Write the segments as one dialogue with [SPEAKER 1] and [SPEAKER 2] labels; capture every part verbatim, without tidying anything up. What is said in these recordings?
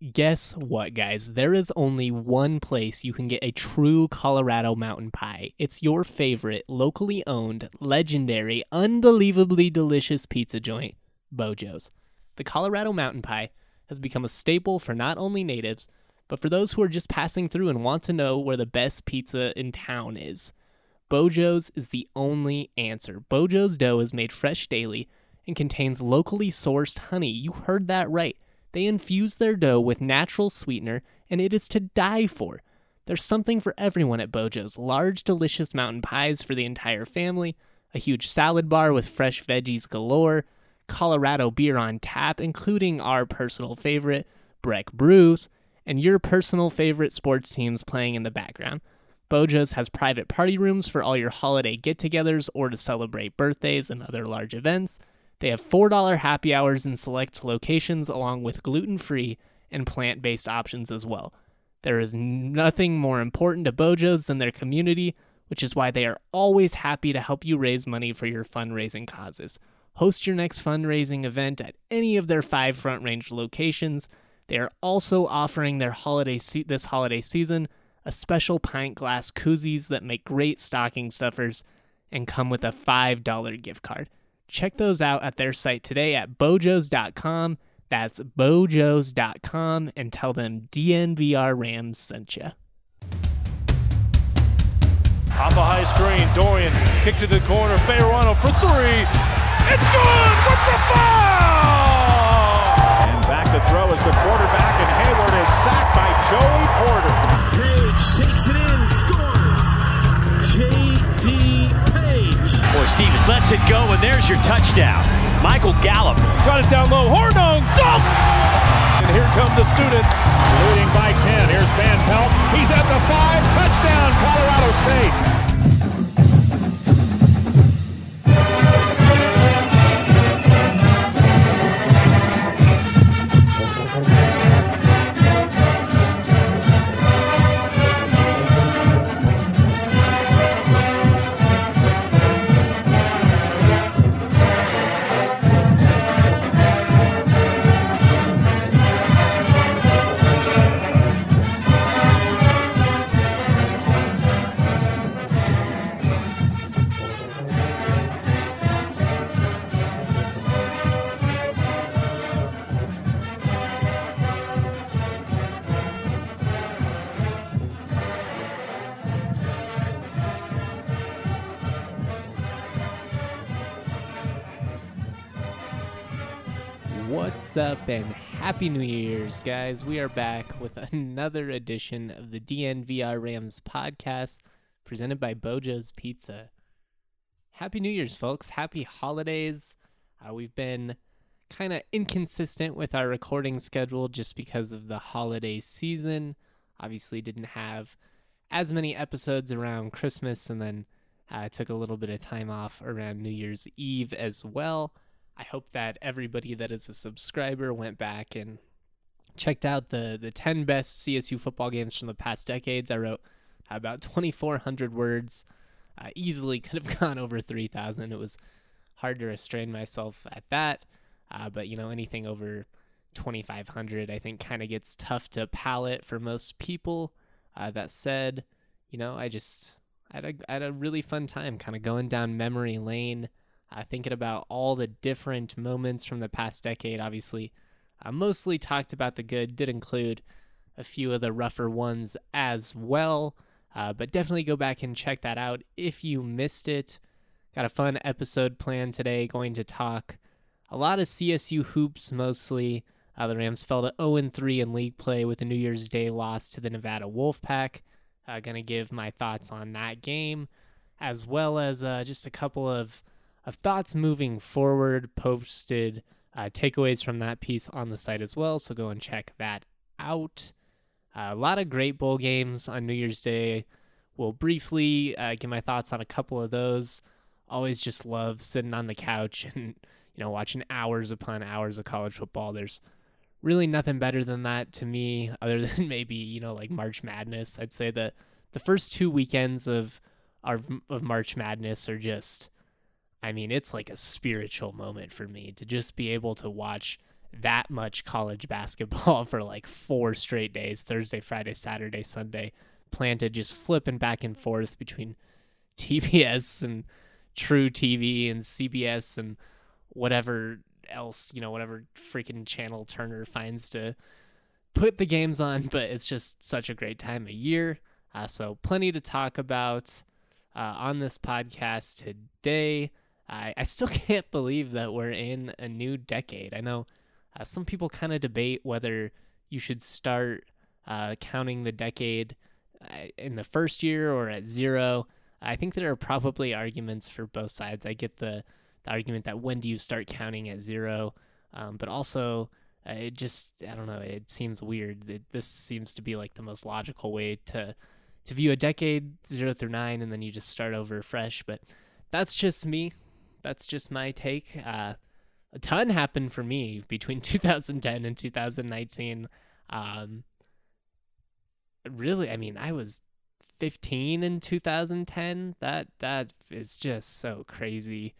[SPEAKER 1] Guess what, guys? There is only one place you can get a true Colorado mountain pie. It's your favorite, locally owned, legendary, unbelievably delicious pizza joint, Bojo's. The Colorado mountain pie has become a staple for not only natives, but for those who are just passing through and want to know where the best pizza in town is. Bojo's is the only answer. Bojo's dough is made fresh daily and contains locally sourced honey. You heard that right. They infuse their dough with natural sweetener, and it is to die for. There's something for everyone at Bojo's. Large, delicious mountain pies for the entire family, a huge salad bar with fresh veggies galore, Colorado beer on tap, including our personal favorite, Breck Brews, and your personal favorite sports teams playing in the background. Bojo's has private party rooms for all your holiday get-togethers or to celebrate birthdays and other large events. They have four dollars happy hours in select locations, along with gluten-free and plant-based options as well. There is nothing more important to Bojo's than their community, which is why they are always happy to help you raise money for your fundraising causes. Host your next fundraising event at any of their five Front Range locations. They are also offering their holiday se- this holiday season a special pint glass koozies that make great stocking stuffers and come with a five dollars gift card. Check those out at their site today at bojos dot com. That's bojos dot com, and tell them D N V R Rams sent you.
[SPEAKER 2] Off a high screen, Dorian kick to the corner, Fayerano for three. It's good with the foul! And back to throw is the quarterback, and Hayward is sacked by Joey Porter.
[SPEAKER 3] Page takes it in, scores. J D Page.
[SPEAKER 4] Boy, Stevens lets it go, and there's your touchdown. Michael Gallup.
[SPEAKER 2] Got it down low, Hornung, dunk! And here come the students.
[SPEAKER 5] Leading by ten, here's Van Pelt. He's at the five, touchdown, Colorado State.
[SPEAKER 1] What's up, and Happy New Year's, guys. We are back with another edition of the D N V R Rams podcast presented by Bojo's Pizza. Happy New Year's, folks. Happy holidays. Uh, we've been kind of inconsistent with our recording schedule just because of the holiday season. Obviously didn't have as many episodes around Christmas, and then uh, took a little bit of time off around New Year's Eve as well. I hope that everybody that is a subscriber went back and checked out the, the ten best C S U football games from the past decades. I wrote about twenty-four hundred words. Uh, easily could have gone over three thousand. It was hard to restrain myself at that. Uh, but, you know, anything over twenty-five hundred, I think, kind of gets tough to palate for most people. Uh, that said, you know, I just I had, a, I had a really fun time kind of going down memory lane. Uh, thinking about all the different moments from the past decade. Obviously, I mostly talked about the good, did include a few of the rougher ones as well, uh, but definitely go back and check that out if you missed it. Got a fun episode planned today, going to talk a lot of C S U hoops mostly. Uh, the Rams fell to oh and three in league play with a New Year's Day loss to the Nevada Wolfpack. Uh, going to give my thoughts on that game, as well as uh, just a couple of of thoughts moving forward. Posted uh, takeaways from that piece on the site as well, so go and check that out. Uh, a lot of great bowl games on New Year's Day. We'll briefly uh, give my thoughts on a couple of those. Always just love sitting on the couch and, you know, watching hours upon hours of college football. There's really nothing better than that to me, other than maybe, you know, like March Madness. I'd say that the first two weekends of our of March Madness are just, I mean, it's like a spiritual moment for me to just be able to watch that much college basketball for like four straight days, Thursday, Friday, Saturday, Sunday, planted just flipping back and forth between T B S and True T V and C B S and whatever else, you know, whatever freaking channel Turner finds to put the games on. But it's just such a great time of year. Uh, so plenty to talk about uh, on this podcast today. I, I still can't believe that we're in a new decade. I know uh, some people kind of debate whether you should start uh, counting the decade uh, in the first year or at zero. I think there are probably arguments for both sides. I get the, the argument that when do you start counting at zero, um, but also uh, it just, I don't know, it seems weird. It, this seems to be like the most logical way to to view a decade, zero through nine, and then you just start over fresh. But that's just me. That's just my take. Uh, a ton happened for me between two thousand ten and two thousand nineteen. Um, really, I mean, I was fifteen in two thousand ten. That that is just so crazy.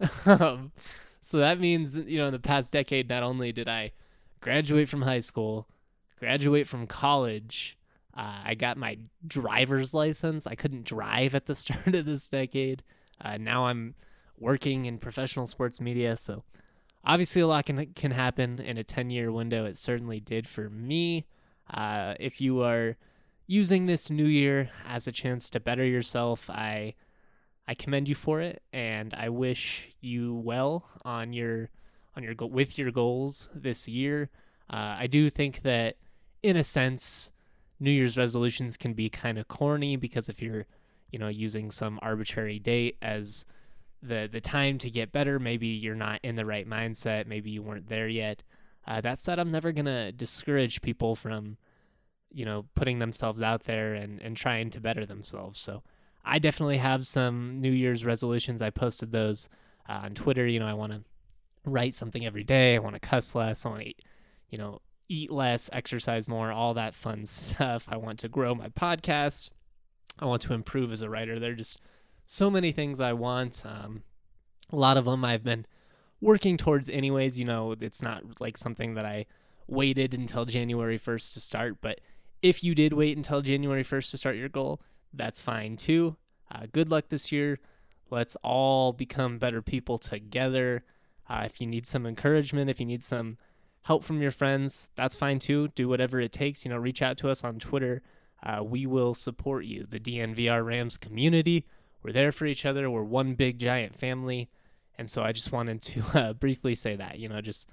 [SPEAKER 1] um, so that means, you know, in the past decade, not only did I graduate from high school, graduate from college, uh, I got my driver's license. I couldn't drive at the start of this decade. Uh, now I'm working in professional sports media, so obviously a lot can can happen in a ten-year window. It certainly did for me. Uh, if you are using this new year as a chance to better yourself, I I commend you for it, and I wish you well on your on your go- with your goals this year. Uh, I do think that, in a sense, New Year's resolutions can be kind of corny, because if you're, you know, using some arbitrary date as the the time to get better, maybe you're not in the right mindset, maybe you weren't there yet. Uh, that said, I'm never gonna discourage people from, you know, putting themselves out there and, and trying to better themselves. So I definitely have some New Year's resolutions. I posted those uh, on Twitter. You know, I want to write something every day. I want to cuss less. I want to, you know, eat less, exercise more, all that fun stuff. I want to grow my podcast. I want to improve as a writer. There are just so many things I want. Um, a lot of them I've been working towards anyways. You know, it's not like something that I waited until January first to start, but if you did wait until January first to start your goal, that's fine too. Uh, good luck this year. Let's all become better people together. Uh, if you need some encouragement, if you need some help from your friends, that's fine too. Do whatever it takes. You know, reach out to us on Twitter. Uh, we will support you. The D N V R Rams community, we're there for each other. We're one big giant family. And so I just wanted to uh, briefly say that, you know, just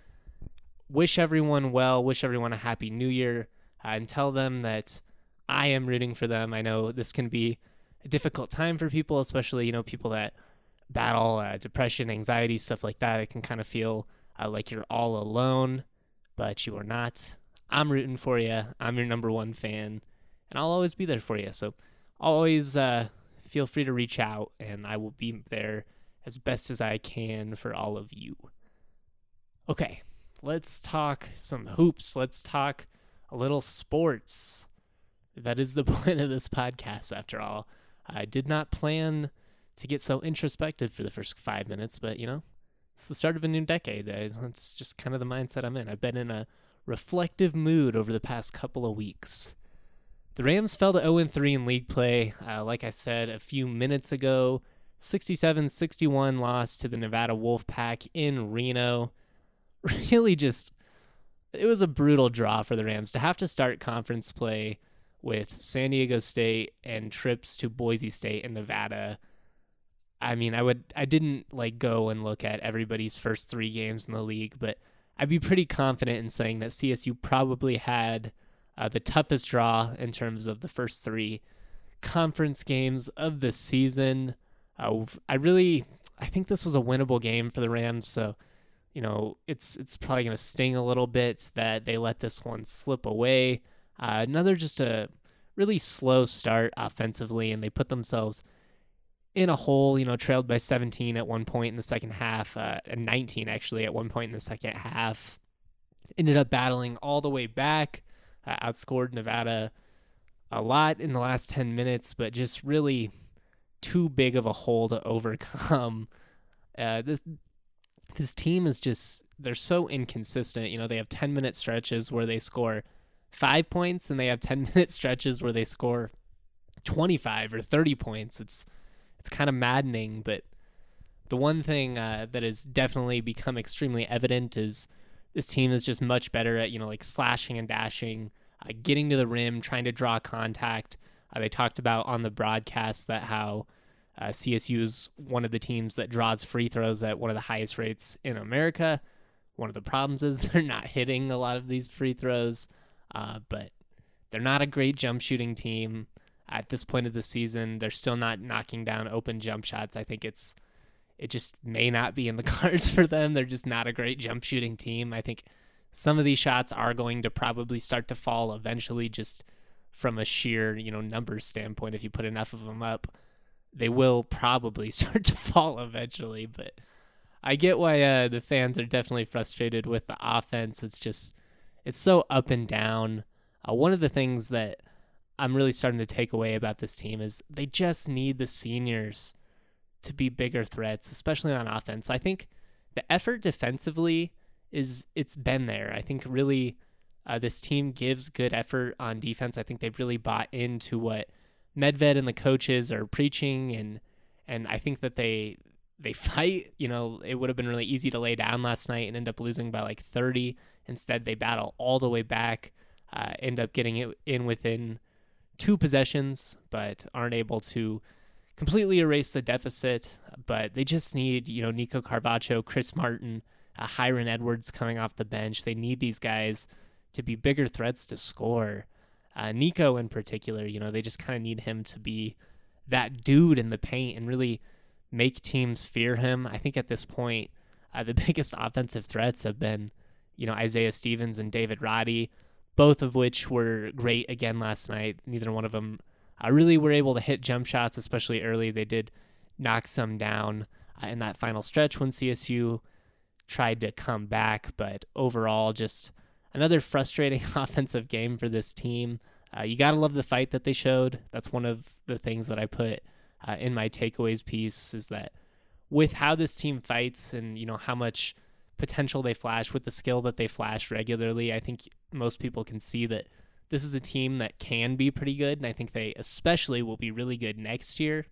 [SPEAKER 1] wish everyone well, wish everyone a happy new year, uh, and tell them that I am rooting for them. I know this can be a difficult time for people, especially, you know, people that battle uh, depression, anxiety, stuff like that. It can kind of feel uh, like you're all alone, but you are not. I'm rooting for you. I'm your number one fan, and I'll always be there for you. So always uh, feel free to reach out, and I will be there as best as I can for all of you. Okay, let's talk some hoops. Let's talk a little sports. That is the point of this podcast, after all. I did not plan to get so introspective for the first five minutes, but, you know, it's the start of a new decade. It's just kind of the mindset I'm in. I've been in a reflective mood over the past couple of weeks. The Rams fell to oh and three in league play. Uh, like I said a few minutes ago, sixty-seven sixty-one loss to the Nevada Wolfpack in Reno. Really just, it was a brutal draw for the Rams to have to start conference play with San Diego State and trips to Boise State and Nevada. I mean, I would, I didn't like go and look at everybody's first three games in the league, but I'd be pretty confident in saying that C S U probably had uh, the toughest draw in terms of the first three conference games of the season. Uh, I really, I think this was a winnable game for the Rams. So, you know, it's it's probably going to sting a little bit that they let this one slip away. Uh, another just a really slow start offensively, and they put themselves in a hole, you know, trailed by seventeen at one point in the second half, uh, and nineteen actually at one point in the second half. Ended up battling all the way back, uh, outscored Nevada a lot in the last ten minutes, but just really too big of a hole to overcome. Uh, this this team is just, they're so inconsistent. You know, they have ten minute stretches where they score five points and they have ten minute stretches where they score twenty-five or thirty points. It's, it's kind of maddening, but the one thing uh, that has definitely become extremely evident is this team is just much better at, you know, like slashing and dashing, uh, getting to the rim, trying to draw contact. Uh, they talked about on the broadcast that how uh, C S U is one of the teams that draws free throws at one of the highest rates in America. One of the problems is they're not hitting a lot of these free throws, uh, but they're not a great jump shooting team. At this point of the season, they're still not knocking down open jump shots. I think it's it just may not be in the cards for them. They're just not a great jump shooting team. I think some of these shots are going to probably start to fall eventually, just from a sheer, you know, numbers standpoint. If you put enough of them up, they will probably start to fall eventually. But I get why uh, the fans are definitely frustrated with the offense. It's just, it's so up and down. Uh, one of the things that I'm really starting to take away about this team is they just need the seniors to be bigger threats, especially on offense. I think the effort defensively is, it's been there. I think really uh, this team gives good effort on defense. I think they've really bought into what Medved and the coaches are preaching, and and I think that they they fight. You know, it would have been really easy to lay down last night and end up losing by like thirty. Instead, they battle all the way back, uh, end up getting it in within two possessions, but aren't able to completely erase the deficit. But they just need, you know, Nico Carvacho, Chris Martin, uh, Hiron Edwards coming off the bench. They need these guys to be bigger threats to score. Uh, Nico in particular, you know, they just kind of need him to be that dude in the paint and really make teams fear him. I think at this point, uh, the biggest offensive threats have been, you know, Isaiah Stevens and David Roddy, both of which were great again last night. Neither one of them uh, really were able to hit jump shots, especially early. They did knock some down uh, in that final stretch when C S U tried to come back, but overall just another frustrating offensive game for this team. Uh, you got to love the fight that they showed. That's one of the things that I put uh, in my takeaways piece, is that with how this team fights and, you know, how much potential they flash with the skill that they flash regularly, I think most people can see that this is a team that can be pretty good, and I think they especially will be really good next year.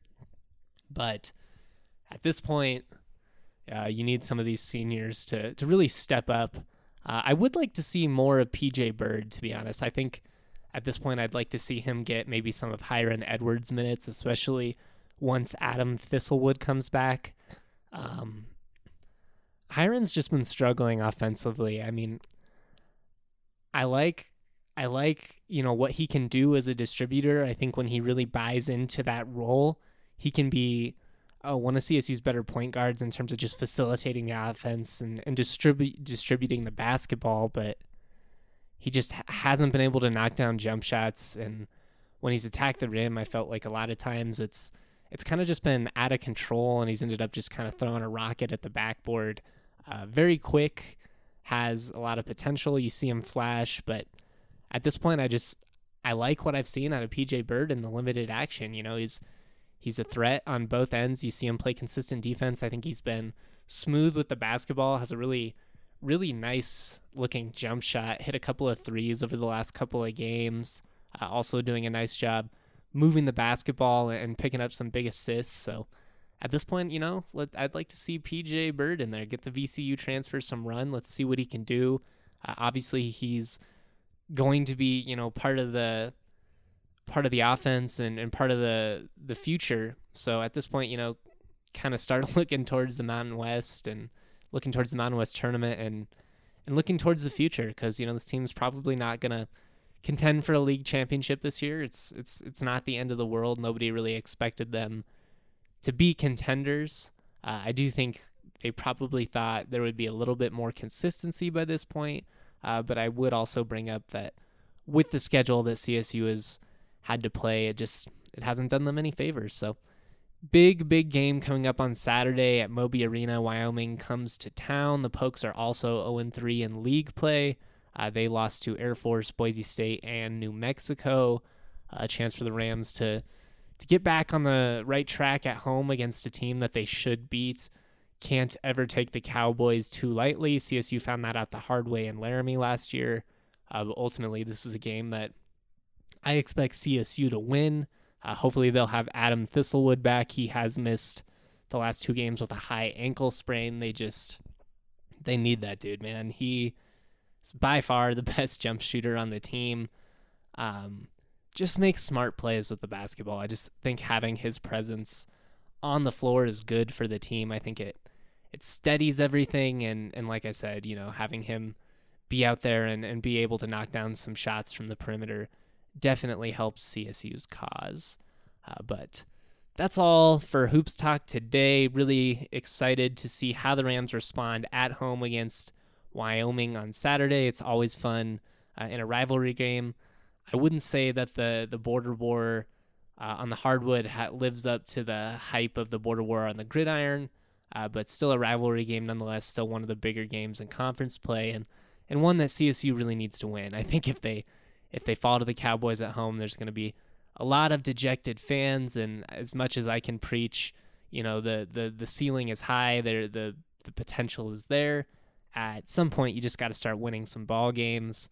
[SPEAKER 1] But at this point, uh, you need some of these seniors to to really step up. Uh, I would like to see more of P J Bird, to be honest. I think at this point I'd like to see him get maybe some of Hiron Edwards minutes, especially once Adam Thistlewood comes back. Um, Hiron's just been struggling offensively. I mean, I like, I like, you know, what he can do as a distributor. I think when he really buys into that role, he can be uh, one of C S U's better point guards in terms of just facilitating the offense and, and distribu- distributing the basketball, but he just ha- hasn't been able to knock down jump shots. And when he's attacked the rim, I felt like a lot of times it's it's kind of just been out of control, and he's ended up just kind of throwing a rocket at the backboard. Uh, very quick, has a lot of potential. You see him flash, but at this point, I just I like what I've seen out of P J Bird in the limited action. You know, he's He's a threat on both ends. You see him play consistent defense. I think he's been smooth with the basketball, has a really, really nice looking jump shot, hit a couple of threes over the last couple of games, uh, also doing a nice job moving the basketball and picking up some big assists. So at this point, you know, let, I'd like to see P J Bird in there, get the V C U transfer some run. Let's see what he can do. Uh, obviously, he's going to be, you know, part of the part of the offense and, and part of the, the future. So at this point, you know, kind of start looking towards the Mountain West and looking towards the Mountain West tournament and, and looking towards the future. Because, you know, this team's probably not going to contend for a league championship this year. It's, it's, it's not the end of the world. Nobody really expected them to be contenders. Uh, I do think they probably thought there would be a little bit more consistency by this point. Uh, but I would also bring up that with the schedule that C S U has had to play, it just it hasn't done them any favors. So big, big game coming up on Saturday at Moby Arena. Wyoming comes to town. The Pokes are also oh and three in league play. Uh, they lost to Air Force, Boise State, and New Mexico. A chance for the Rams to to get back on the right track at home against a team that they should beat. can't ever take the Cowboys too lightly. C S U found that out the hard way in Laramie last year. Uh, but ultimately, this is a game that I expect C S U to win. Uh, hopefully, they'll have Adam Thistlewood back. He has missed the last two games with a high ankle sprain. They just, they need that dude, man. He is by far the best jump shooter on the team. Um, just makes smart plays with the basketball. I just think having his presence on the floor is good for the team. I think it it steadies everything, and and like I said, you know, having him be out there and, and be able to knock down some shots from the perimeter definitely helps C S U's cause. Uh, but that's all for Hoops Talk today. Really excited to see how the Rams respond at home against Wyoming on Saturday. It's always fun uh, in a rivalry game. I wouldn't say that the, the border war uh, on the hardwood ha- lives up to the hype of the border war on the gridiron, uh, but still a rivalry game nonetheless, still one of the bigger games in conference play, and, and one that C S U really needs to win. I think if they if they fall to the Cowboys at home, there's going to be a lot of dejected fans, and as much as I can preach, you know, the the, the ceiling is high, there the, the potential is there. At some point, you just got to start winning some ball games.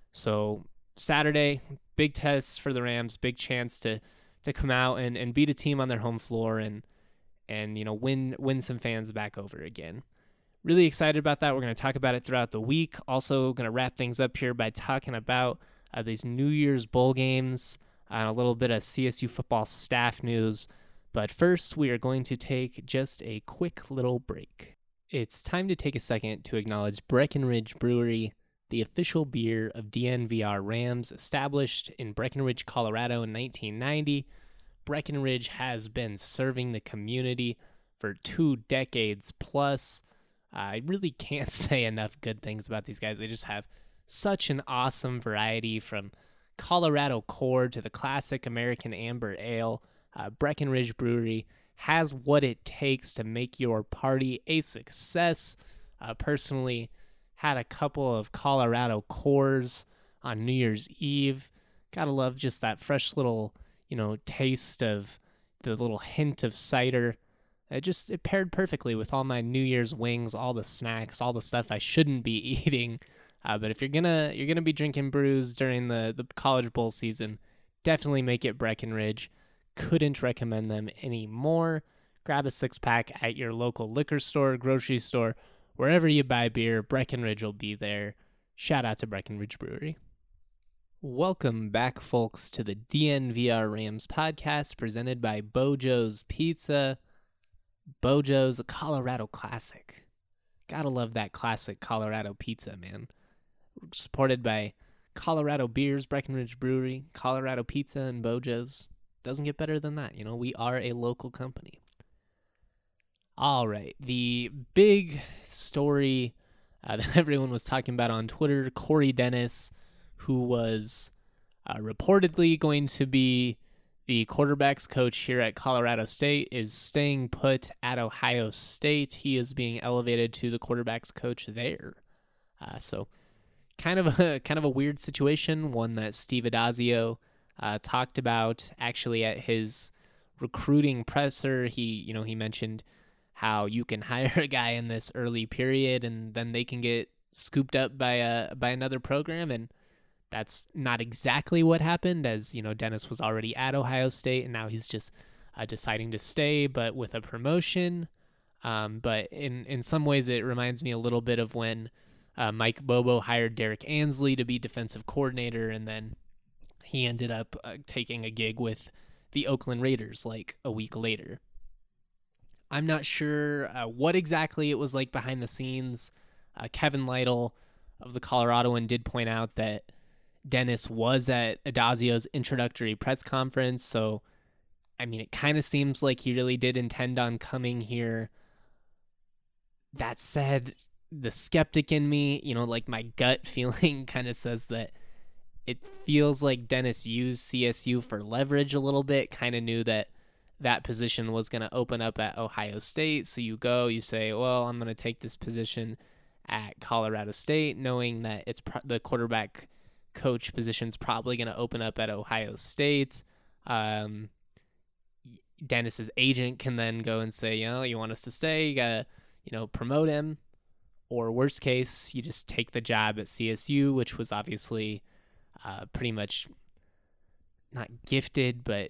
[SPEAKER 1] So Saturday, big test for the Rams, big chance to to come out and, and beat a team on their home floor and and you know win win some fans back over again. Really excited about that. We're going to talk about it throughout the week. Also going to wrap things up here by talking about uh, these New Year's bowl games and a little bit of C S U football staff news. But first, we are going to take just a quick little break. It's time to take a second to acknowledge Breckenridge Brewery, the official beer of D N V R Rams. Established in Breckenridge, Colorado in nineteen ninety, Breckenridge has been serving the community for two decades plus. I really can't say enough good things about these guys. They just have such an awesome variety, from Colorado Core to the classic American Amber Ale. Uh, Breckenridge Brewery has what it takes to make your party a success. Uh, personally, had a couple of Colorado Cores on New Year's Eve. Gotta love just that fresh little, you know, taste of the little hint of cider. It just, it paired perfectly with all my New Year's wings, all the snacks, all the stuff I shouldn't be eating. Uh, but if you're gonna you're gonna be drinking brews during the, the College Bowl season, definitely make it Breckenridge. Couldn't recommend them anymore. Grab a six-pack at your local liquor store, grocery store, wherever you buy beer. Breckenridge will be there. Shout out to Breckenridge Brewery. Welcome back, folks, to the D N V R Rams podcast presented by Bojo's Pizza. Bojo's, a Colorado classic. Gotta love that classic Colorado pizza, man. Supported by Colorado Beers, Breckenridge Brewery, Colorado Pizza, and Bojo's. Doesn't get better than that. You know, we are a local company. All right, the big story uh, that everyone was talking about on Twitter, Corey Dennis, who was uh, reportedly going to be the quarterback's coach here at Colorado State, is staying put at Ohio State. He is being elevated to the quarterback's coach there. Uh, so kind of a kind of a weird situation, one that Steve Adazio uh, talked about actually at his recruiting presser. He, you know, he mentioned how you can hire a guy in this early period and then they can get scooped up by a by another program, and that's not exactly what happened, as, you know, Dennis was already at Ohio State and now he's just uh, deciding to stay, but with a promotion. Um, but in, in some ways it reminds me a little bit of when uh, Mike Bobo hired Derek Ansley to be defensive coordinator, and then he ended up uh, taking a gig with the Oakland Raiders like a week later. I'm not sure uh, what exactly it was like behind the scenes. Uh, Kevin Lytle of the Coloradoan did point out that Dennis was at Adazio's introductory press conference, so, I mean, it kind of seems like he really did intend on coming here. That said, the skeptic in me, you know, like my gut feeling kind of says that it feels like Dennis used C S U for leverage a little bit, kind of knew that that position was going to open up at Ohio State. So you go, you say, well, I'm going to take this position at Colorado State, knowing that it's pro- the quarterback coach position's probably going to open up at Ohio State. Um, Dennis's agent can then go and say, you know, you want us to stay, you gotta, you know, promote him, or worst case, you just take the job at C S U, which was obviously uh, pretty much not gifted, but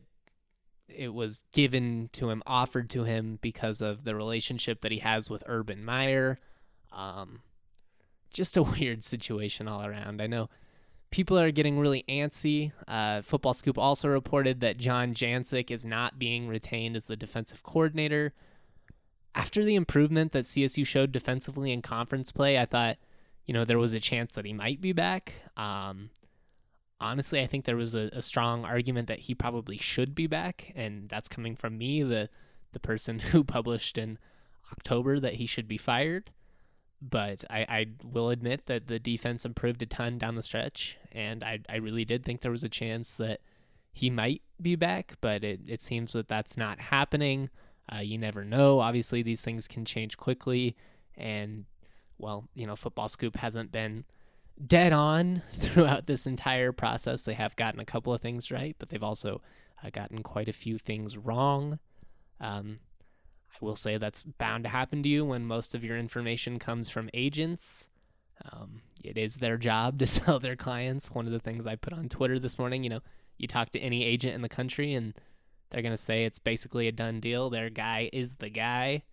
[SPEAKER 1] it was given to him, offered to him because of the relationship that he has with Urban Meyer. Um, just a weird situation all around. I know people are getting really antsy. Uh, Football Scoop also reported that John Jancic is not being retained as the defensive coordinator. After the improvement that C S U showed defensively in conference play, I thought, you know, there was a chance that he might be back. Um, honestly, I think there was a, a strong argument that he probably should be back, and that's coming from me, the the person who published in October that he should be fired. But I, I will admit that the defense improved a ton down the stretch, and I, I really did think there was a chance that he might be back, but it, it seems that that's not happening. Uh, you never know. Obviously, these things can change quickly, and, well, you know, Football Scoop hasn't been dead on throughout this entire process. They have gotten a couple of things right, but they've also uh, gotten quite a few things wrong. Um, I will say that's bound to happen to you when most of your information comes from agents. Um, it is their job to sell their clients. One of the things I put on Twitter this morning, you know, you talk to any agent in the country and they're going to say it's basically a done deal. Their guy is the guy.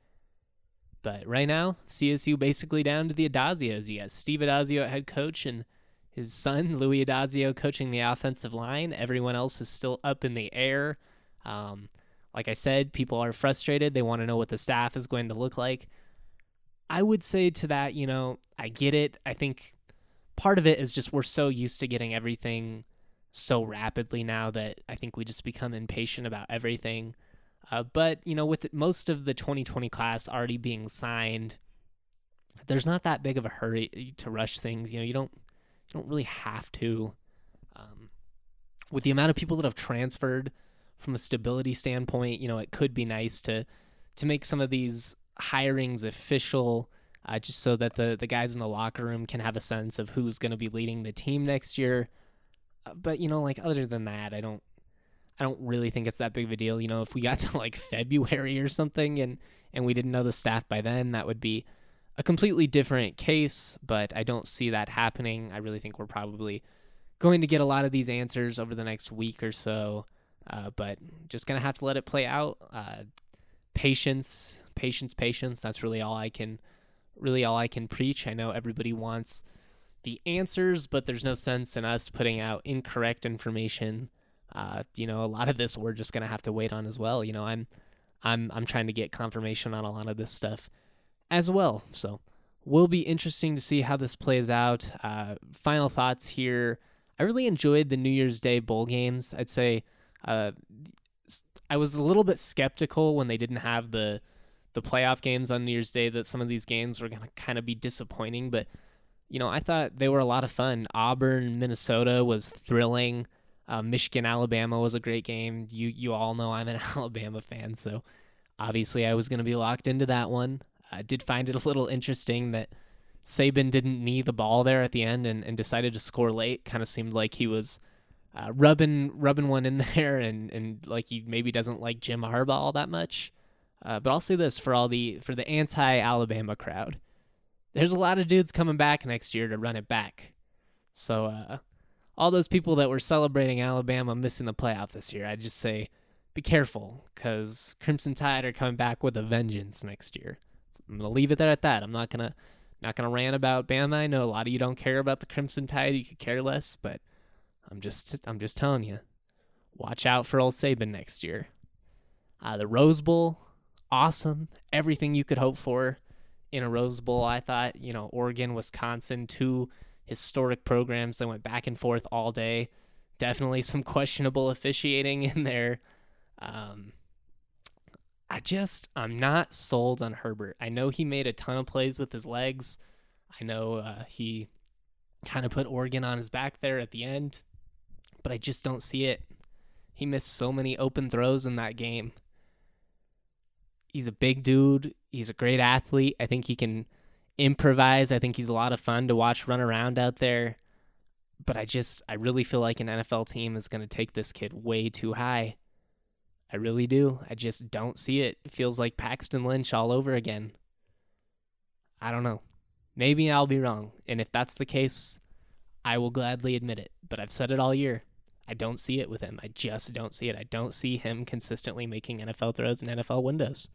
[SPEAKER 1] But right now, C S U basically down to the Adazios. You got Steve Adazio at head coach and his son, Louis Adazio, coaching the offensive line. Everyone else is still up in the air. Um, like I said, people are frustrated. They want to know what the staff is going to look like. I would say to that, you know, I get it. I think part of it is just we're so used to getting everything so rapidly now that I think we just become impatient about everything. Uh, but, you know, with most of the twenty twenty class already being signed, there's not that big of a hurry to rush things. You know, you don't you don't really have to. Um, with the amount of people that have transferred from a stability standpoint, you know, it could be nice to to make some of these hirings official, uh, just so that the, the guys in the locker room can have a sense of who's going to be leading the team next year. Uh, but, you know, like other than that, I don't I don't really think it's that big of a deal. You know, if we got to like February or something and, and we didn't know the staff by then, that would be a completely different case, but I don't see that happening. I really think we're probably going to get a lot of these answers over the next week or so, uh, but just going to have to let it play out. Uh, patience, patience, patience. That's really all I can, really all I can preach. I know everybody wants the answers, but there's no sense in us putting out incorrect information. Uh, you know, a lot of this we're just gonna have to wait on as well. You know, I'm, I'm, I'm trying to get confirmation on a lot of this stuff as well. So, will be interesting to see how this plays out. Uh, final thoughts here. I really enjoyed the New Year's Day bowl games. I'd say, uh, I was a little bit skeptical when they didn't have the, the playoff games on New Year's Day that some of these games were gonna kind of be disappointing. But, you know, I thought they were a lot of fun. Auburn, Minnesota was thrilling. Uh, Michigan, Alabama was a great game. You you all know I'm an Alabama fan, so obviously I was going to be locked into that one. I did find it a little interesting that Saban didn't knee the ball there at the end and, and decided to score late. Kind of seemed like he was uh, rubbing rubbing one in there and, and like he maybe doesn't like Jim Harbaugh all that much. Uh, but I'll say this for all the for the anti-Alabama crowd. There's a lot of dudes coming back next year to run it back. So, uh, all those people that were celebrating Alabama missing the playoff this year, I'd just say be careful because Crimson Tide are coming back with a vengeance next year. I'm going to leave it there at that. I'm not going to not gonna rant about Bama. I know a lot of you don't care about the Crimson Tide. You could care less, but I'm just I'm just telling you, watch out for old Saban next year. Uh, the Rose Bowl, awesome. Everything you could hope for in a Rose Bowl. I thought, you know, Oregon, Wisconsin, two historic programs that went back and forth all day. Definitely some questionable officiating in there. Um, I just, I'm not sold on Herbert. I know he made a ton of plays with his legs. I know uh, he kind of put Oregon on his back there at the end, but I just don't see it. He missed so many open throws in that game. He's a big dude. He's a great athlete. I think he can improvise. I think he's a lot of fun to watch run around out there. But I just, I really feel like an N F L team is going to take this kid way too high. I really do. I just don't see it. It feels like Paxton Lynch all over again. I don't know. Maybe I'll be wrong. And if that's the case, I will gladly admit it. But I've said it all year. I don't see it with him. I just don't see it. I don't see him consistently making N F L throws in N F L windows.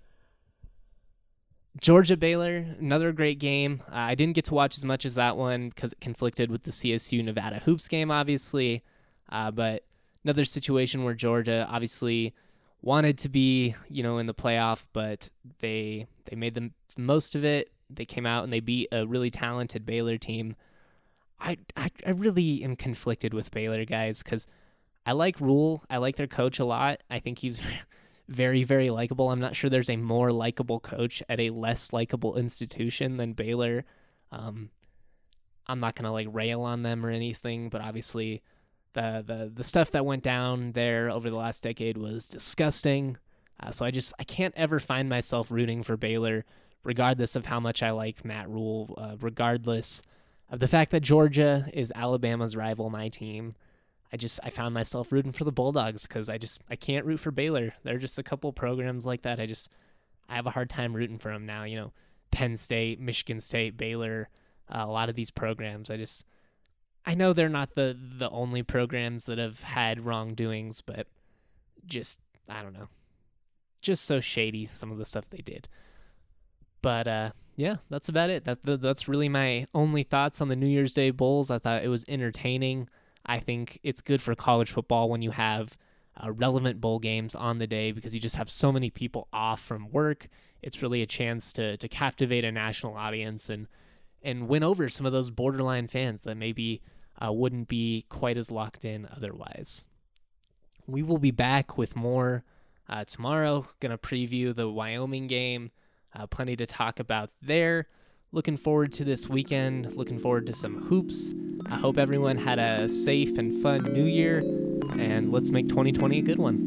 [SPEAKER 1] Georgia Baylor, another great game. Uh, I didn't get to watch as much as that one because it conflicted with the C S U Nevada Hoops game, obviously. Uh, but another situation where Georgia obviously wanted to be, you know, in the playoff, but they they made the most of it. They came out and they beat a really talented Baylor team. I I, I really am conflicted with Baylor, guys, because I like Rule. I like their coach a lot. I think he's very, very likable. I'm not sure there's a more likable coach at a less likable institution than Baylor. Um, I'm not going to like rail on them or anything, but obviously the, the, the stuff that went down there over the last decade was disgusting. Uh, so I just, I can't ever find myself rooting for Baylor, regardless of how much I like Matt Rule, uh, regardless of the fact that Georgia is Alabama's rival, my team. I just, I found myself rooting for the Bulldogs because I just, I can't root for Baylor. There are just a couple programs like that. I just, I have a hard time rooting for them now. You know, Penn State, Michigan State, Baylor, uh, a lot of these programs. I just, I know they're not the, the only programs that have had wrongdoings, but just, I don't know. Just so shady, some of the stuff they did. But, uh, yeah, that's about it. That, that's really my only thoughts on the New Year's Day Bowls. I thought it was entertaining. I think it's good for college football when you have uh, relevant bowl games on the day because you just have so many people off from work. It's really a chance to to captivate a national audience and and win over some of those borderline fans that maybe uh, wouldn't be quite as locked in otherwise. We will be back with more uh, tomorrow. Going to preview the Wyoming game. Uh, plenty to talk about there. Looking forward to this weekend. Looking forward to some hoops. I hope everyone had a safe and fun New Year, and let's make twenty twenty a good one.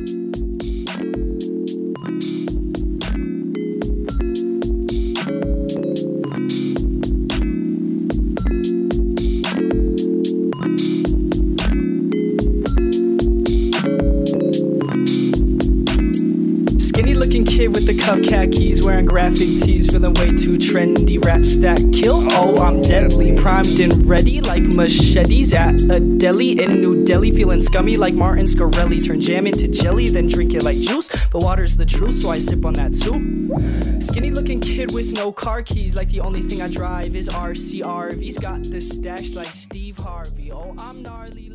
[SPEAKER 6] Kid with the cuff khakis, wearing graphic tees, feeling way too trendy. Raps that kill, oh I'm deadly, primed and ready like machetes at a deli in New Delhi. Feeling scummy like Martin Scarelli, turn jam into jelly, then drink it like juice. But water's the truth, so I sip on that too. Skinny looking kid with no car keys, like the only thing I drive is R C R V's. Got the stash like Steve Harvey, oh I'm gnarly.